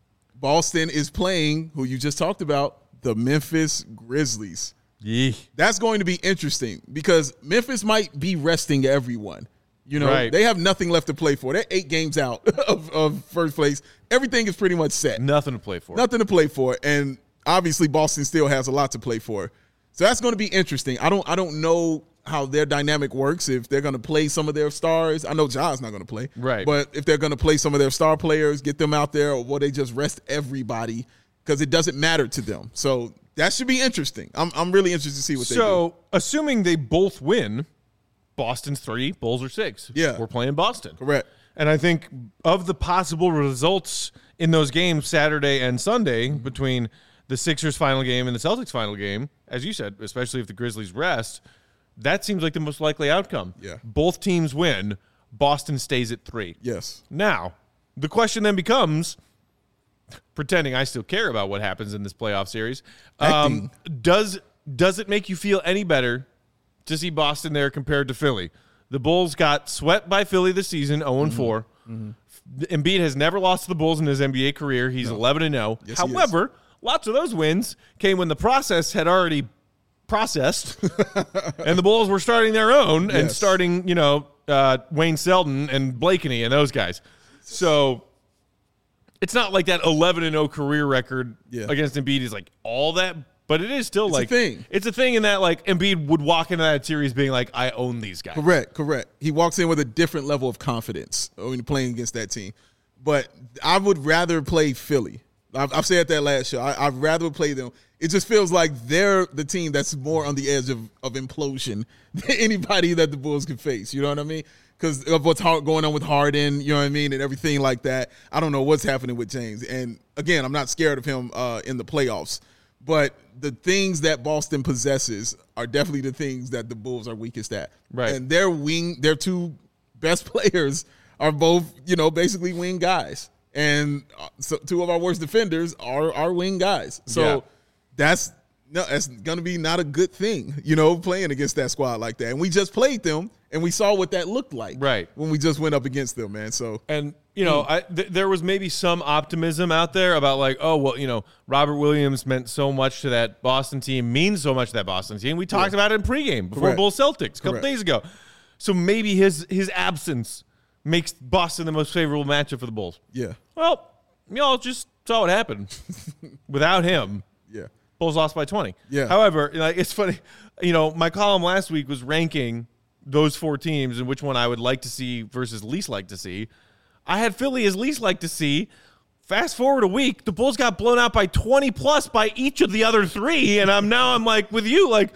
Boston is playing who you just talked about, the Memphis Grizzlies. Yee. That's going to be interesting because Memphis might be resting everyone. You know, Right. they have nothing left to play for. They're eight games out of, of first place. Everything is pretty much set. Nothing to play for. Nothing to play for. And obviously Boston still has a lot to play for. So that's going to be interesting. I don't I don't know how their dynamic works, if they're going to play some of their stars. I know Ja's not going to play. Right. But if they're going to play some of their star players, get them out there, or will they just rest everybody because it doesn't matter to them. So that should be interesting. I'm I'm really interested to see what they do. So, assuming they both win, Boston's three, Bulls are six. Yeah. We're playing Boston. Correct. And I think of the possible results in those games, Saturday and Sunday, between the Sixers' final game and the Celtics' final game, as you said, especially if the Grizzlies rest, that seems like the most likely outcome. Yeah. Both teams win. Boston stays at three. Yes. Now, the question then becomes, pretending I still care about what happens in this playoff series, um, does does it make you feel any better to see Boston there compared to Philly? The Bulls got swept by Philly this season, oh and four. Mm-hmm. Embiid has never lost to the Bulls in his N B A career. He's eleven and oh. Yes, he is. However, lots of those wins came when the process had already processed, and the Bulls were starting their own and Yes. starting, you know, uh, Wayne Selden and Blakeney and those guys. So it's not like that eleven and oh career record Yeah. against Embiid is like all that, but it is still It's a like thing. It's a thing in that like Embiid would walk into that series being like, I own these guys. Correct, correct. He walks in with a different level of confidence when playing against that team. But I would rather play Philly. I've, I've said that last show. I, I'd rather play them. It just feels like they're the team that's more on the edge of, of implosion than anybody that the Bulls could face. You know what I mean? Because of what's hard, going on with Harden, you know what I mean, and everything like that. I don't know what's happening with James. And, again, I'm not scared of him uh, in the playoffs. But the things that Boston possesses are definitely the things that the Bulls are weakest at. Right. And their wing, their two best players are both, you know, basically wing guys. And uh, so two of our worst defenders are our wing guys. So Yeah. that's no, that's going to be not a good thing, you know, playing against that squad like that. And we just played them, and we saw what that looked like. Right. When we just went up against them, man. So And, you know, I, th- there was maybe some optimism out there about like, oh, well, you know, Robert Williams meant so much to that Boston team, means so much to that Boston team. We talked about it in pregame before Correct. Bulls Celtics a couple Correct. days ago. So maybe his his absence makes Boston the most favorable matchup for the Bulls. yeah, Well, y'all just saw what happened. Without him, yeah, Bulls lost by twenty. Yeah. However, like it's funny, you know, my column last week was ranking those four teams and which one I would like to see versus least like to see. I had Philly as least like to see. Fast forward a week, the Bulls got blown out by twenty plus by each of the other three, and I'm now I'm like with you, like,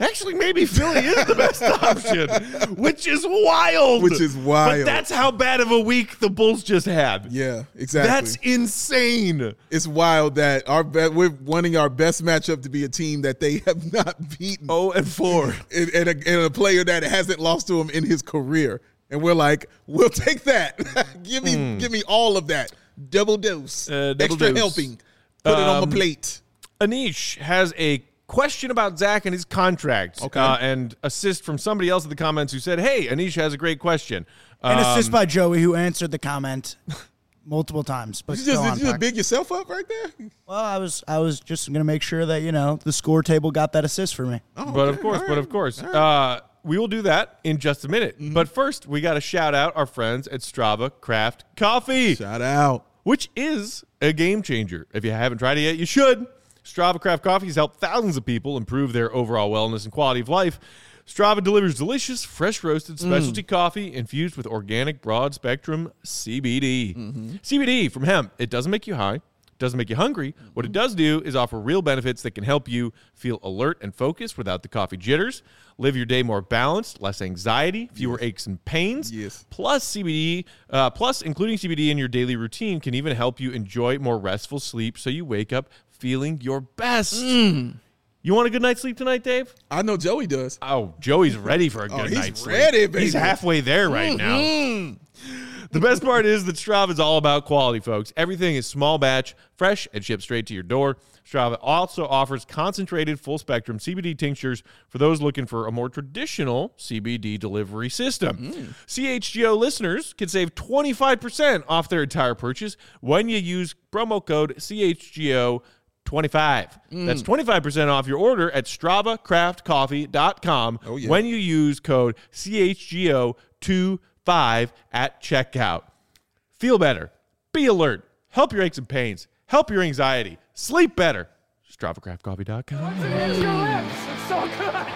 Actually, maybe Philly is the best option, which is wild. Which is wild. But that's how bad of a week the Bulls just had. Yeah, exactly. That's insane. It's wild that our be- we're wanting our best matchup to be a team that they have not beaten. Oh, and four. And, and, a, and a player that hasn't lost to him in his career. And we're like, we'll take that. give me mm. give me all of that. Double dose. Uh, double Extra dose. helping. Put um, it on my plate. Anish has a question about Zach and his contract. Okay. Uh, and assist from somebody else in the comments who said, hey, Anish has a great question. And um, assist by Joey, who answered the comment multiple times. But you just, did you just big yourself up right there? Well, I was I was just going to make sure that, you know, the score table got that assist for me. Oh, but okay. of course, right. but of course. Right. Uh, we will do that in just a minute. Mm-hmm. But first, we got to shout out our friends at Strava Craft Coffee. Shout out. Which is a game changer. If you haven't tried it yet, you should. Strava Craft Coffee has helped thousands of people improve their overall wellness and quality of life. Strava delivers delicious, fresh roasted specialty mm. coffee infused with organic broad spectrum C B D. Mm-hmm. C B D from hemp. It doesn't make you high. Doesn't make you hungry. What it does do is offer real benefits that can help you feel alert and focused without the coffee jitters. Live your day more balanced, less anxiety, fewer yes. aches and pains. Yes. Plus C B D, uh, plus including C B D in your daily routine can even help you enjoy more restful sleep so you wake up feeling your best. Mm. You want a good night's sleep tonight, Dave? I know Joey does. Oh, Joey's ready for a good oh, he's night's sleep. ready, baby. He's halfway there right mm-hmm. now. The best part is that Strava is all about quality, folks. Everything is small batch, fresh, and shipped straight to your door. Strava also offers concentrated full-spectrum C B D tinctures for those looking for a more traditional C B D delivery system. Mm. C H G O listeners can save twenty-five percent off their entire purchase when you use promo code C H G O twenty-five. Mm. That's twenty-five percent off your order at strava craft coffee dot com oh, yeah. when you use code C H G O twenty-five at checkout. Feel better. Be alert. Help your aches and pains. Help your anxiety. Sleep better. strava craft coffee dot com. When it hits your lips, it's so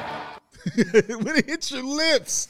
good. When it hits your lips.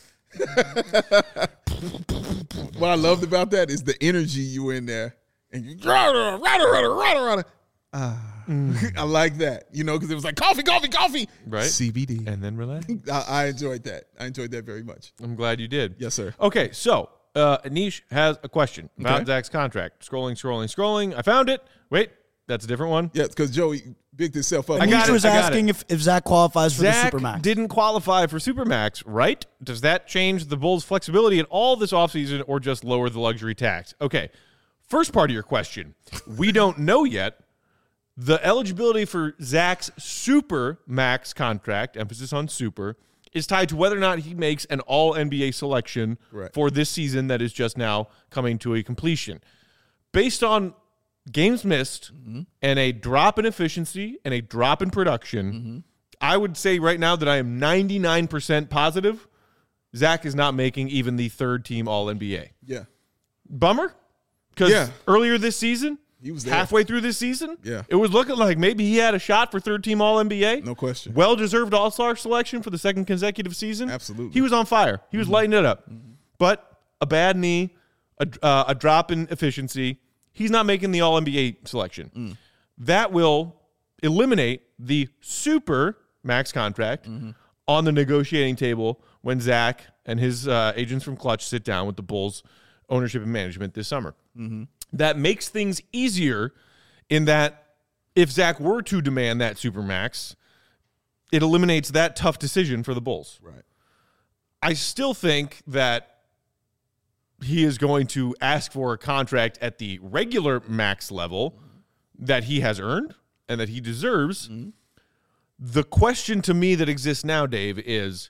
What I loved about that is the energy you in there. And you rada, rada, rada, rada, rada. Uh, mm. I like that, you know, because it was like coffee, coffee, coffee. Right. C B D. And then relax. I, I enjoyed that. I enjoyed that very much. I'm glad you did. Yes, sir. Okay, so uh, Anish has a question about okay. Zach's contract. Scrolling, scrolling, scrolling. I found it. Wait, that's a different one. Yeah, because Joey bigged himself up. I got Anish it, was I got asking it. if, if Zach qualifies for Zach the Supermax. didn't qualify for Supermax, right? Does that change the Bulls' flexibility at all this offseason or just lower the luxury tax? Okay, first part of your question. We don't know yet. The eligibility for Zach's Super Max contract, emphasis on super, is tied to whether or not he makes an all N B A selection Correct. for this season that is just now coming to a completion. Based on games missed mm-hmm. and a drop in efficiency and a drop in production, mm-hmm. I would say right now that I am ninety-nine percent positive Zach is not making even the third team all N B A. Yeah. Bummer? Because Yeah. earlier this season, He was there. halfway through this season, Yeah. it was looking like maybe he had a shot for third team all N B A. No question. Well-deserved all-star selection for the second consecutive season. Absolutely. He was on fire. He was Mm-hmm. lighting it up. Mm-hmm. But a bad knee, a, uh, a drop in efficiency, he's not making the all N B A selection. Mm. That will eliminate the super max contract mm-hmm. on the negotiating table when Zach and his uh, agents from Clutch sit down with the Bulls ownership and management this summer. Mm-hmm. That makes things easier in that if Zach were to demand that supermax, it eliminates that tough decision for the Bulls. Right. I still think that he is going to ask for a contract at the regular max level mm-hmm. that he has earned and that he deserves. Mm-hmm. The question to me that exists now, Dave, is,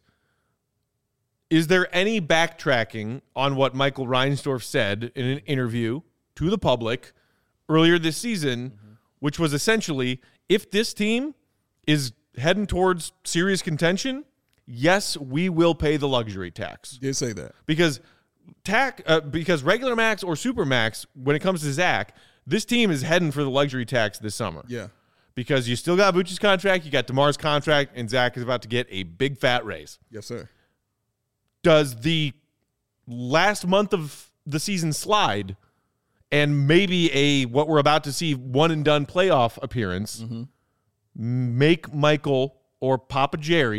is there any backtracking on what Michael Reinsdorf said in an interview to the public earlier this season, mm-hmm. which was essentially, if this team is heading towards serious contention, yes, we will pay the luxury tax. Did say that. Because tax, uh, because regular max or super max, when it comes to Zach, this team is heading for the luxury tax this summer. Yeah. Because you still got Vooch's contract, you got DeMar's contract, and Zach is about to get a big fat raise. Yes, sir. Does the last month of the season slide and maybe a what we're about to see one and done playoff appearance mm-hmm. make Michael or Papa Jerry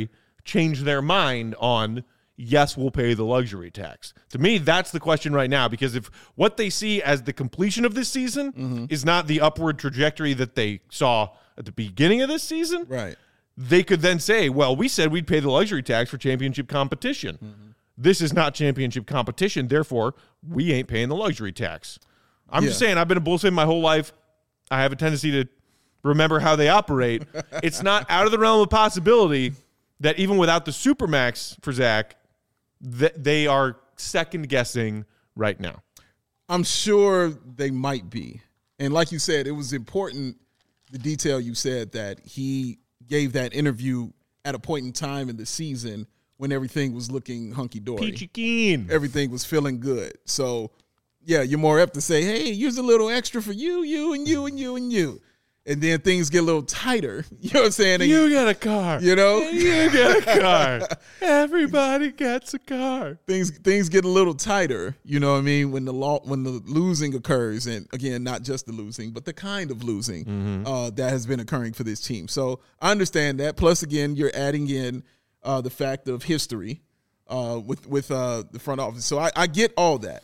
change their mind on, yes, we'll pay the luxury tax. To me, that's the question right now, because if what they see as the completion of this season mm-hmm. is not the upward trajectory that they saw at the beginning of this season, right, they could then say, well, we said we'd pay the luxury tax for championship competition. Mm-hmm. This is not championship competition, therefore, we ain't paying the luxury tax. I'm yeah. just saying, I've been a Bulls fan my whole life. I have a tendency to remember how they operate. It's not out of the realm of possibility that even without the Supermax for Zach, that they are second-guessing right now. I'm sure they might be. And like you said, it was important, the detail you said, that he gave that interview at a point in time in the season when everything was looking hunky-dory. Peachy keen. Everything was feeling good. So, yeah, you're more apt to say, hey, here's a little extra for you, you, and you, and you, and you. And then things get a little tighter. You know what I'm saying? And you get a car. You know? You get a car. Everybody gets a car. Things things get a little tighter, you know what I mean, when the law, when the losing occurs. And, again, not just the losing, but the kind of losing mm-hmm. uh, that has been occurring for this team. So I understand that. Plus, again, you're adding in uh, the fact of history uh, with, with uh, the front office. So I, I get all that.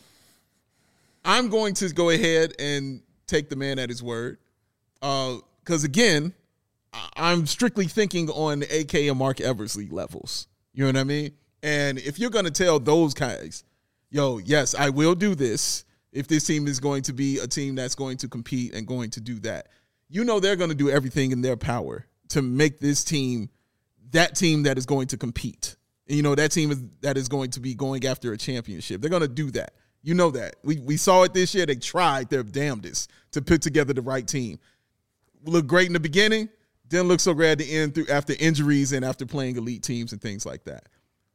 I'm going to go ahead and take the man at his word. Because, uh, again, I'm strictly thinking on A K and Mark Eversley levels. You know what I mean? And if you're going to tell those guys, yo, yes, I will do this if this team is going to be a team that's going to compete and going to do that, you know they're going to do everything in their power to make this team that team that is going to compete. And, you know, that team is, that is going to be going after a championship. They're going to do that. You know that. We, we saw it this year. They tried their damnedest to put together the right team. Looked great in the beginning, didn't look so great at the end through after injuries and after playing elite teams and things like that.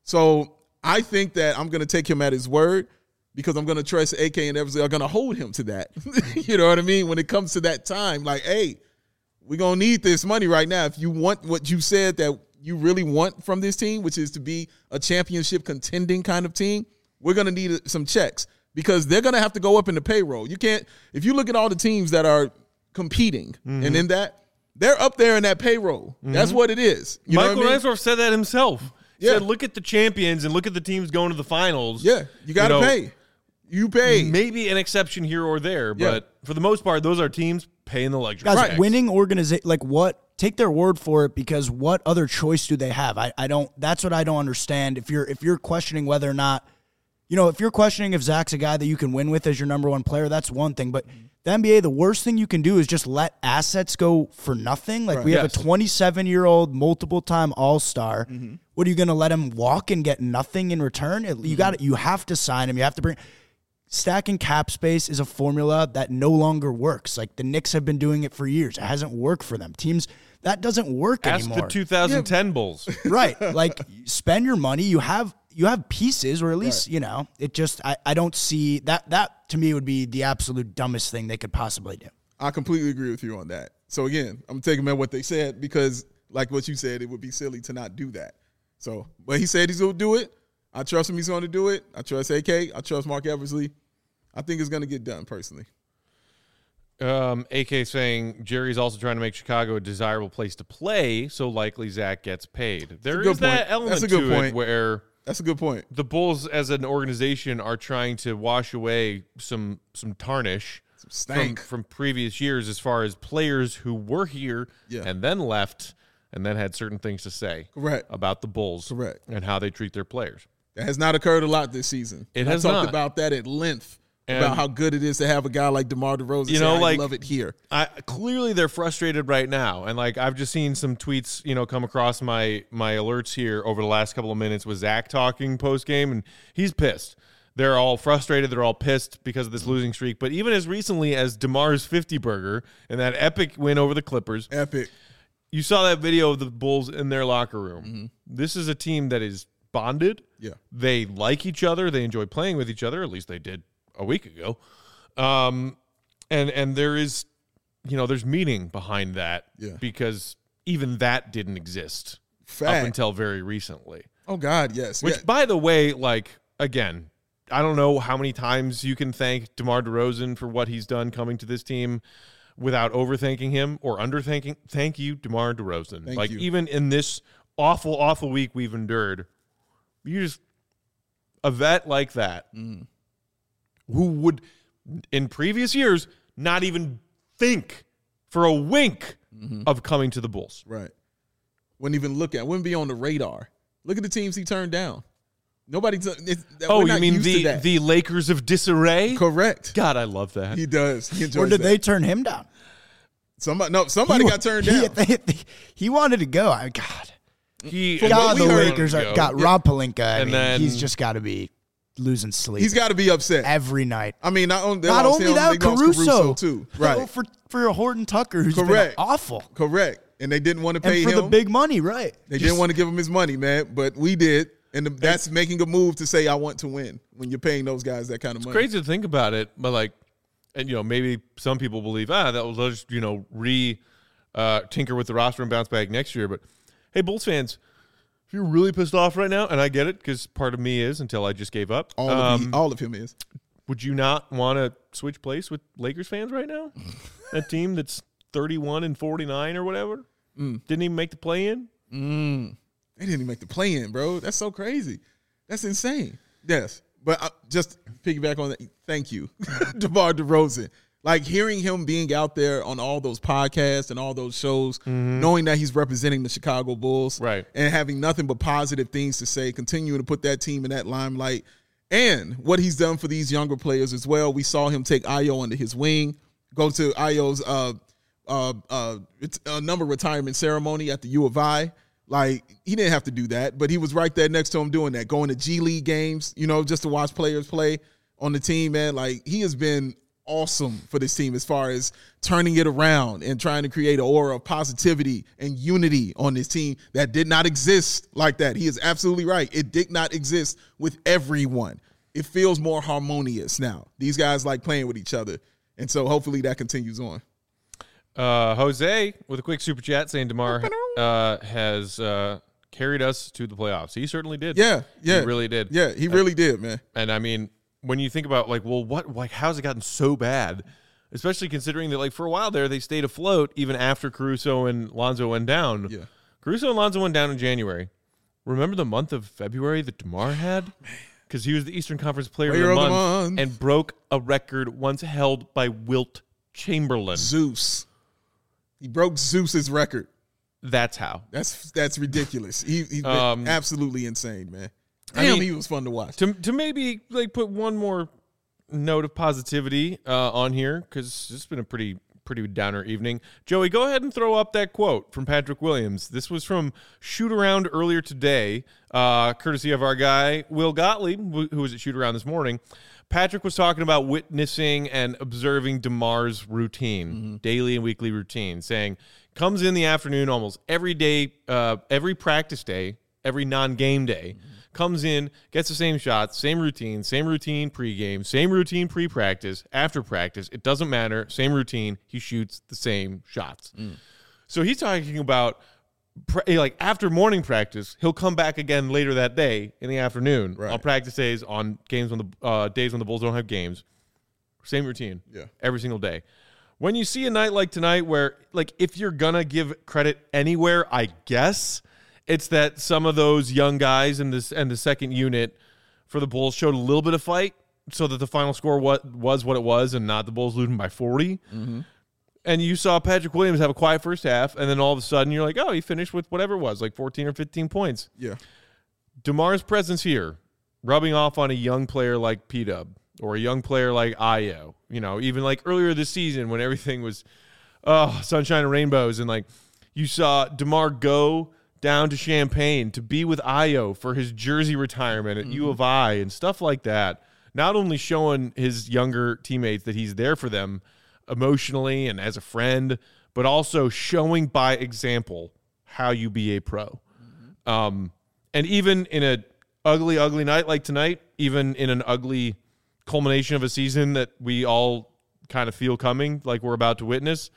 So I think that I'm going to take him at his word because I'm going to trust A K and Eversley are going to hold him to that. You know what I mean? When it comes to that time, like, hey, we're going to need this money right now. If you want what you said that you really want from this team, which is to be a championship contending kind of team, we're going to need some checks because they're going to have to go up in the payroll. You can't – if you look at all the teams that are – competing mm-hmm. and in that they're up there in that payroll. Mm-hmm. That's what it is. You Michael know what I mean? Reinsdorf said that himself. He yeah. said, look at the champions and look at the teams going to the finals. Yeah, you got to you know, pay. You pay. Maybe an exception here or there, but yeah. for the most part, those are teams paying the luxury. Guys, tax. winning organization, like what? Take their word for it because what other choice do they have? I, I don't. That's what I don't understand. If you're if you're questioning whether or not, you know, if you're questioning if Zach's a guy that you can win with as your number one player, that's one thing, but. The N B A, the worst thing you can do is just let assets go for nothing. Like, right. we have yes. a twenty-seven-year-old, multiple-time All-Star. Mm-hmm. What are you going to let him walk and get nothing in return? It, mm-hmm. You got you have to sign him. You have to bring – stacking cap space is a formula that no longer works. Like, the Knicks have been doing it for years. It hasn't worked for them. Teams – that doesn't work Ask anymore. Ask the two thousand ten yeah. Bulls. Right. Like, spend your money. You have – You have pieces, or at least, right. you know, it just, I, I don't see, that, that to me would be the absolute dumbest thing they could possibly do. I completely agree with you on that. So, again, I'm taking them at what they said because, like what you said, it would be silly to not do that. So, but he said he's going to do it. I trust him he's going to do it. I trust A K. I trust Mark Eversley. I think it's going to get done, personally. Um, A K saying Jerry's also trying to make Chicago a desirable place to play, so likely Zach gets paid. There is that element That's a good to point. it where That's a good point. The Bulls, as an organization, are trying to wash away some some tarnish some from, from previous years as far as players who were here yeah. and then left and then had certain things to say Correct. about the Bulls Correct. and how they treat their players. That has not occurred a lot this season. It and has I talked not. about that at length. And about how good it is to have a guy like DeMar DeRozan. You know, say, I like, love it here. I, clearly, they're frustrated right now, and like I've just seen some tweets, you know, come across my my alerts here over the last couple of minutes with Zach talking post game, and he's pissed. They're all frustrated. They're all pissed because of this losing streak. But even as recently as DeMar's fifty burger and that epic win over the Clippers, epic. You saw that video of the Bulls in their locker room. Mm-hmm. This is a team that is bonded. Yeah, they like each other. They enjoy playing with each other. At least they did a week ago. Um, and, and there is, you know, there's meaning behind that yeah. because even that didn't exist Fact. up until very recently. Oh God, yes. Which, yeah. by the way, like, again, I don't know how many times you can thank DeMar DeRozan for what he's done coming to this team without overthanking him or underthanking. Thank you, DeMar DeRozan. Thank like, you. even in this awful, awful week we've endured, you just a vet like that mm. who would in previous years not even think for a wink mm-hmm. of coming to the Bulls. Right. Wouldn't even look at, wouldn't be on the radar. Look at the teams he turned down. Nobody. T- it's, oh, you mean the the Lakers of disarray? Correct. God, I love that. He does. He enjoys Or did that. they turn him down? Somebody, no, somebody He, got turned he, down. They, they, he wanted to go. I God. He, God, the heard, Lakers are, got yeah. Rob Pelinka. I And mean, then- he's just got to be losing sleep. He's got to be upset every night. I mean, not only, Not lost only him, that, they lost Caruso. Caruso too. Right. Oh, for for a Horton Tucker who's Correct. been awful. Correct. And they didn't want to pay And for him. the big money, right. They Just- didn't want to give him his money, man, but we did. And the, that's making a move to say, I want to win when you're paying those guys that kind of money. crazy to think about it, but like, and you know, maybe some people believe ah, that was just you know re uh, tinker with the roster and bounce back next year. But hey, Bulls fans, if you're really pissed off right now, and I get it because part of me is until I just gave up. All, um, of, he, all of him is. Would you not want to switch place with Lakers fans right now? That team that's thirty-one and forty-nine or whatever mm. didn't even make the play in. Mm. They didn't even make the play in, bro. That's so crazy. That's insane. Yes. But uh, just piggyback on that. Thank you, DeMar DeRozan. Like hearing him being out there on all those podcasts and all those shows, mm-hmm. knowing that he's representing the Chicago Bulls, right, and having nothing but positive things to say, continuing to put that team in that limelight, and what he's done for these younger players as well. We saw him take Ayo under his wing, go to Ayo's uh, uh, uh, uh, number retirement ceremony at the U of I. Like, he didn't have to do that, but he was right there next to him doing that, going to G League games, you know, just to watch players play on the team, man. Like, he has been awesome for this team as far as turning it around and trying to create an aura of positivity and unity on this team that did not exist like that. He is absolutely right. It did not exist with everyone. It feels more harmonious now. These guys like playing with each other, and so hopefully that continues on. Uh, Jose with a quick super chat saying DeMar uh, has uh, carried us to the playoffs. He certainly did. Yeah, yeah, he really did. Yeah, he really uh, did, man. And I mean, when you think about like, well, what, like, how's it gotten so bad? Especially considering that, like, for a while there, they stayed afloat even after Caruso and Lonzo went down. Yeah, Caruso and Lonzo went down in January. Remember the month of February that DeMar had? Because he was the Eastern Conference Player, Player of, the, of month the Month and broke a record once held by Wilt Chamberlain. Zeus. He broke Zeus's record. That's how. That's that's ridiculous. He, he's um, absolutely insane, man. Damn, I mean, he was fun to watch. To to maybe like put one more note of positivity uh, on here because it's been a pretty pretty downer evening. Joey, go ahead and throw up that quote from Patrick Williams. This was from Shoot Around earlier today, uh, courtesy of our guy Will Gottlieb, who was at Shoot Around this morning. Patrick was talking about witnessing and observing DeMar's routine, mm-hmm. daily and weekly routine, saying comes in the afternoon almost every day, uh, every practice day, every non-game day, mm-hmm. comes in, gets the same shots, same routine, same routine pregame, same routine pre-practice, after practice. It doesn't matter. Same routine. He shoots the same shots. Mm. So he's talking about like after morning practice, he'll come back again later that day in the afternoon right. on practice days, on games when the uh, days when the Bulls don't have games. Same routine, yeah, every single day. When you see a night like tonight, where like if you're gonna give credit anywhere, I guess it's that some of those young guys in this and the second unit for the Bulls showed a little bit of fight, so that the final score what was what it was, and not the Bulls losing by forty. Mm-hmm. And you saw Patrick Williams have a quiet first half, and then all of a sudden you're like, oh, he finished with whatever it was, like fourteen or fifteen points. Yeah. DeMar's presence here, rubbing off on a young player like P-Dub or a young player like Ayo, you know, even like earlier this season when everything was, oh, sunshine and rainbows, and like you saw DeMar go down to Champaign to be with Ayo for his jersey retirement at mm-hmm. U of I and stuff like that. Not only showing his younger teammates that he's there for them emotionally and as a friend, but also showing by example how you be a pro. Mm-hmm. Um, and even in a ugly, ugly night like tonight, even in an ugly culmination of a season that we all kind of feel coming, like we're about to witness,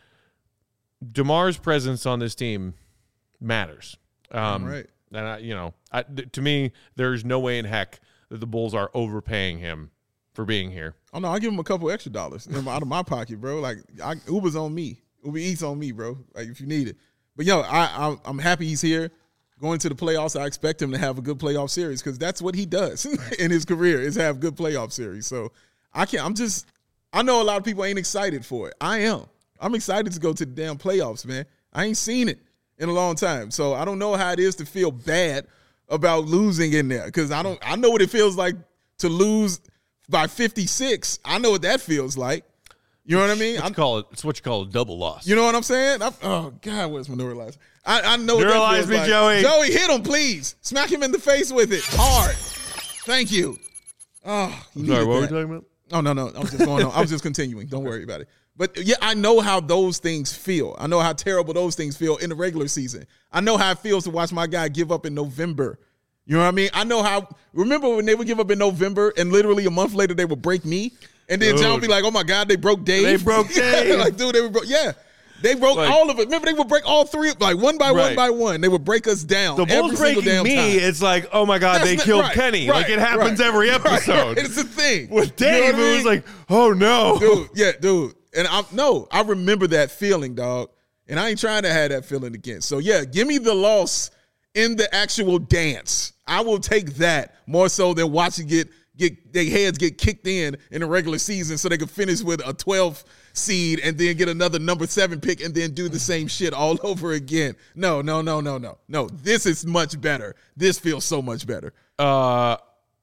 DeMar's presence on this team matters. Um, right. And, I, you know, I, th- to me, there's no way in heck that the Bulls are overpaying him for being here. Oh, no, I'll give him a couple extra dollars out of my pocket, bro. Like, I, Uber's on me. Uber Eats on me, bro, like if you need it. But, yo, I, I, I'm happy he's here. going to the playoffs, I expect him to have a good playoff series because that's what he does in his career is have good playoff series. So I can't. I'm just. I know a lot of people ain't excited for it. I am. I'm excited to go to the damn playoffs, man. I ain't seen it in a long time, so I don't know how it is to feel bad about losing in there because I don't. I know what it feels like to lose by fifty-six. I know what that feels like. You know what I mean? What you call it, it's what you call a double loss. You know what I'm saying? I'm, oh, God, where's my neuralizer? I, I know what Neuralize that feels me, like. Joey. Joey, hit him, please. Smack him in the face with it. Hard. Thank you. Oh, you Sorry, needed what were we that. talking about? Oh, no, no. I was just going on. I was just continuing. Don't worry about it. But, yeah, I know how those things feel. I know how terrible those things feel in the regular season. I know how it feels to watch my guy give up in November. You know what I mean? I know how – remember when they would give up in November and literally a month later they would break me? And then Dude. John would be like, oh, my God, they broke Dave. They broke Dave. Like, dude, they were broke. Yeah. They broke Like- all of it. Remember, they would break all three, like one by one Right. by one. They would break us down. The Bulls every single breaking damn me, time. it's like, oh my God, That's they not- killed right, Kenny. right, like it happens right, every right. episode. It's a thing. With You know Dave, what I it was mean? like, oh no. dude, yeah, dude. And I no, I remember that feeling, dog. And I ain't trying to have that feeling again. So yeah, give me the loss in the actual dance. I will take that more so than watching it get their heads get kicked in in the regular season so they can finish with a twelve seed and then get another number seven pick and then do the same shit all over again. No, no, no, no, no. No, this is much better. This feels so much better. Uh,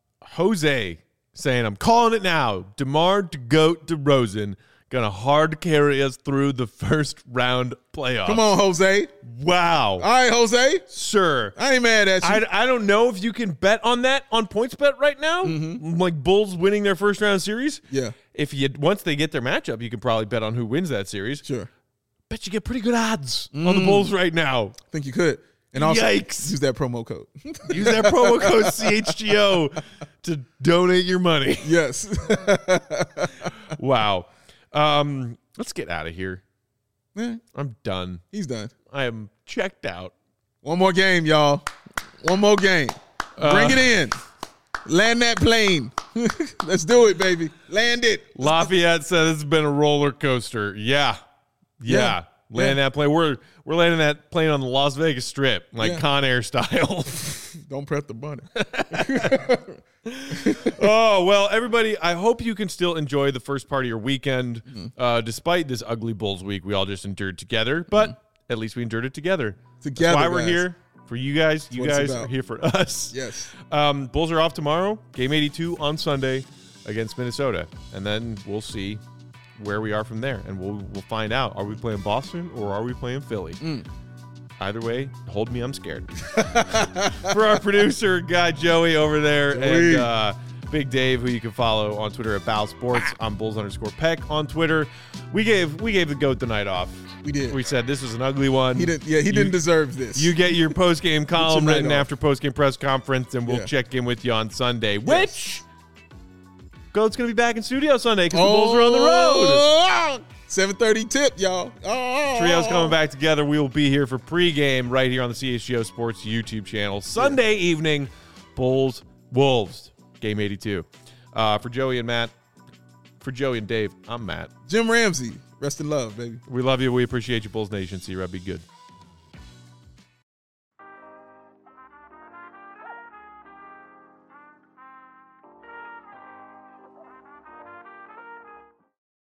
Jose saying, I'm calling it now. DeMar DeGoat DeRozan gonna hard carry us through the first round playoffs. Come on, Jose. Wow. All right, Jose. Sure. I ain't mad at you. I, I don't know if you can bet on that on PointsBet right now. Like Bulls winning their first round series. Yeah. If you once they get their matchup, you can probably bet on who wins that series. Sure. Bet you get pretty good odds on the Bulls right now. I think you could. And also Yikes. use that promo code. Use that promo code C H G O to donate your money. Yes. Wow. Um, let's get out of here. Yeah, I'm done. he's done. I am checked out. One more game, y'all. One more game. Bring it in. Land that plane. Let's do it, baby. Land it. Lafayette said it's been a roller coaster. Yeah. Yeah. Yeah. Land Yeah. that plane. We're we're landing that plane on the Las Vegas Strip, like Yeah. Con Air style. Don't press the button. Oh, well, everybody, I hope you can still enjoy the first part of your weekend, Mm-hmm. uh, despite this ugly Bulls week we all just endured together. But at least we endured it together. Together, That's why we're guys. here. For you guys. You what it's guys about. are here for us. Yes. Um, Bulls are off tomorrow. Game eighty-two on Sunday against Minnesota. And then we'll see where we are from there. And we'll we'll find out. Are we playing Boston or are we playing Philly? Mm. Either way, hold me, I'm scared. For our producer, guy Joey over there, Joey. and uh, Big Dave, who you can follow on Twitter at Bow Sports. I'm Bulls underscore Peck on Twitter. We gave we gave the GOAT the night off. We did. We said this was an ugly one. He didn't. Yeah, he You- didn't deserve this. You get your post game column night written off. after post game press conference, and we'll Yeah. check in with you on Sunday. Which GOAT's gonna be back in studio Sunday because the Bulls are on the road. Oh, seven thirty tip, y'all. Oh, Trio's coming back together. We will be here for pregame right here on the C H G O Sports YouTube channel. Sunday evening, Bulls, Wolves, game eighty-two. Uh, for Joey and Matt, for Joey and Dave, I'm Matt. Jim Ramsey. Rest in love, baby. We love you. We appreciate you, Bulls Nation. See you, Rob. Be good.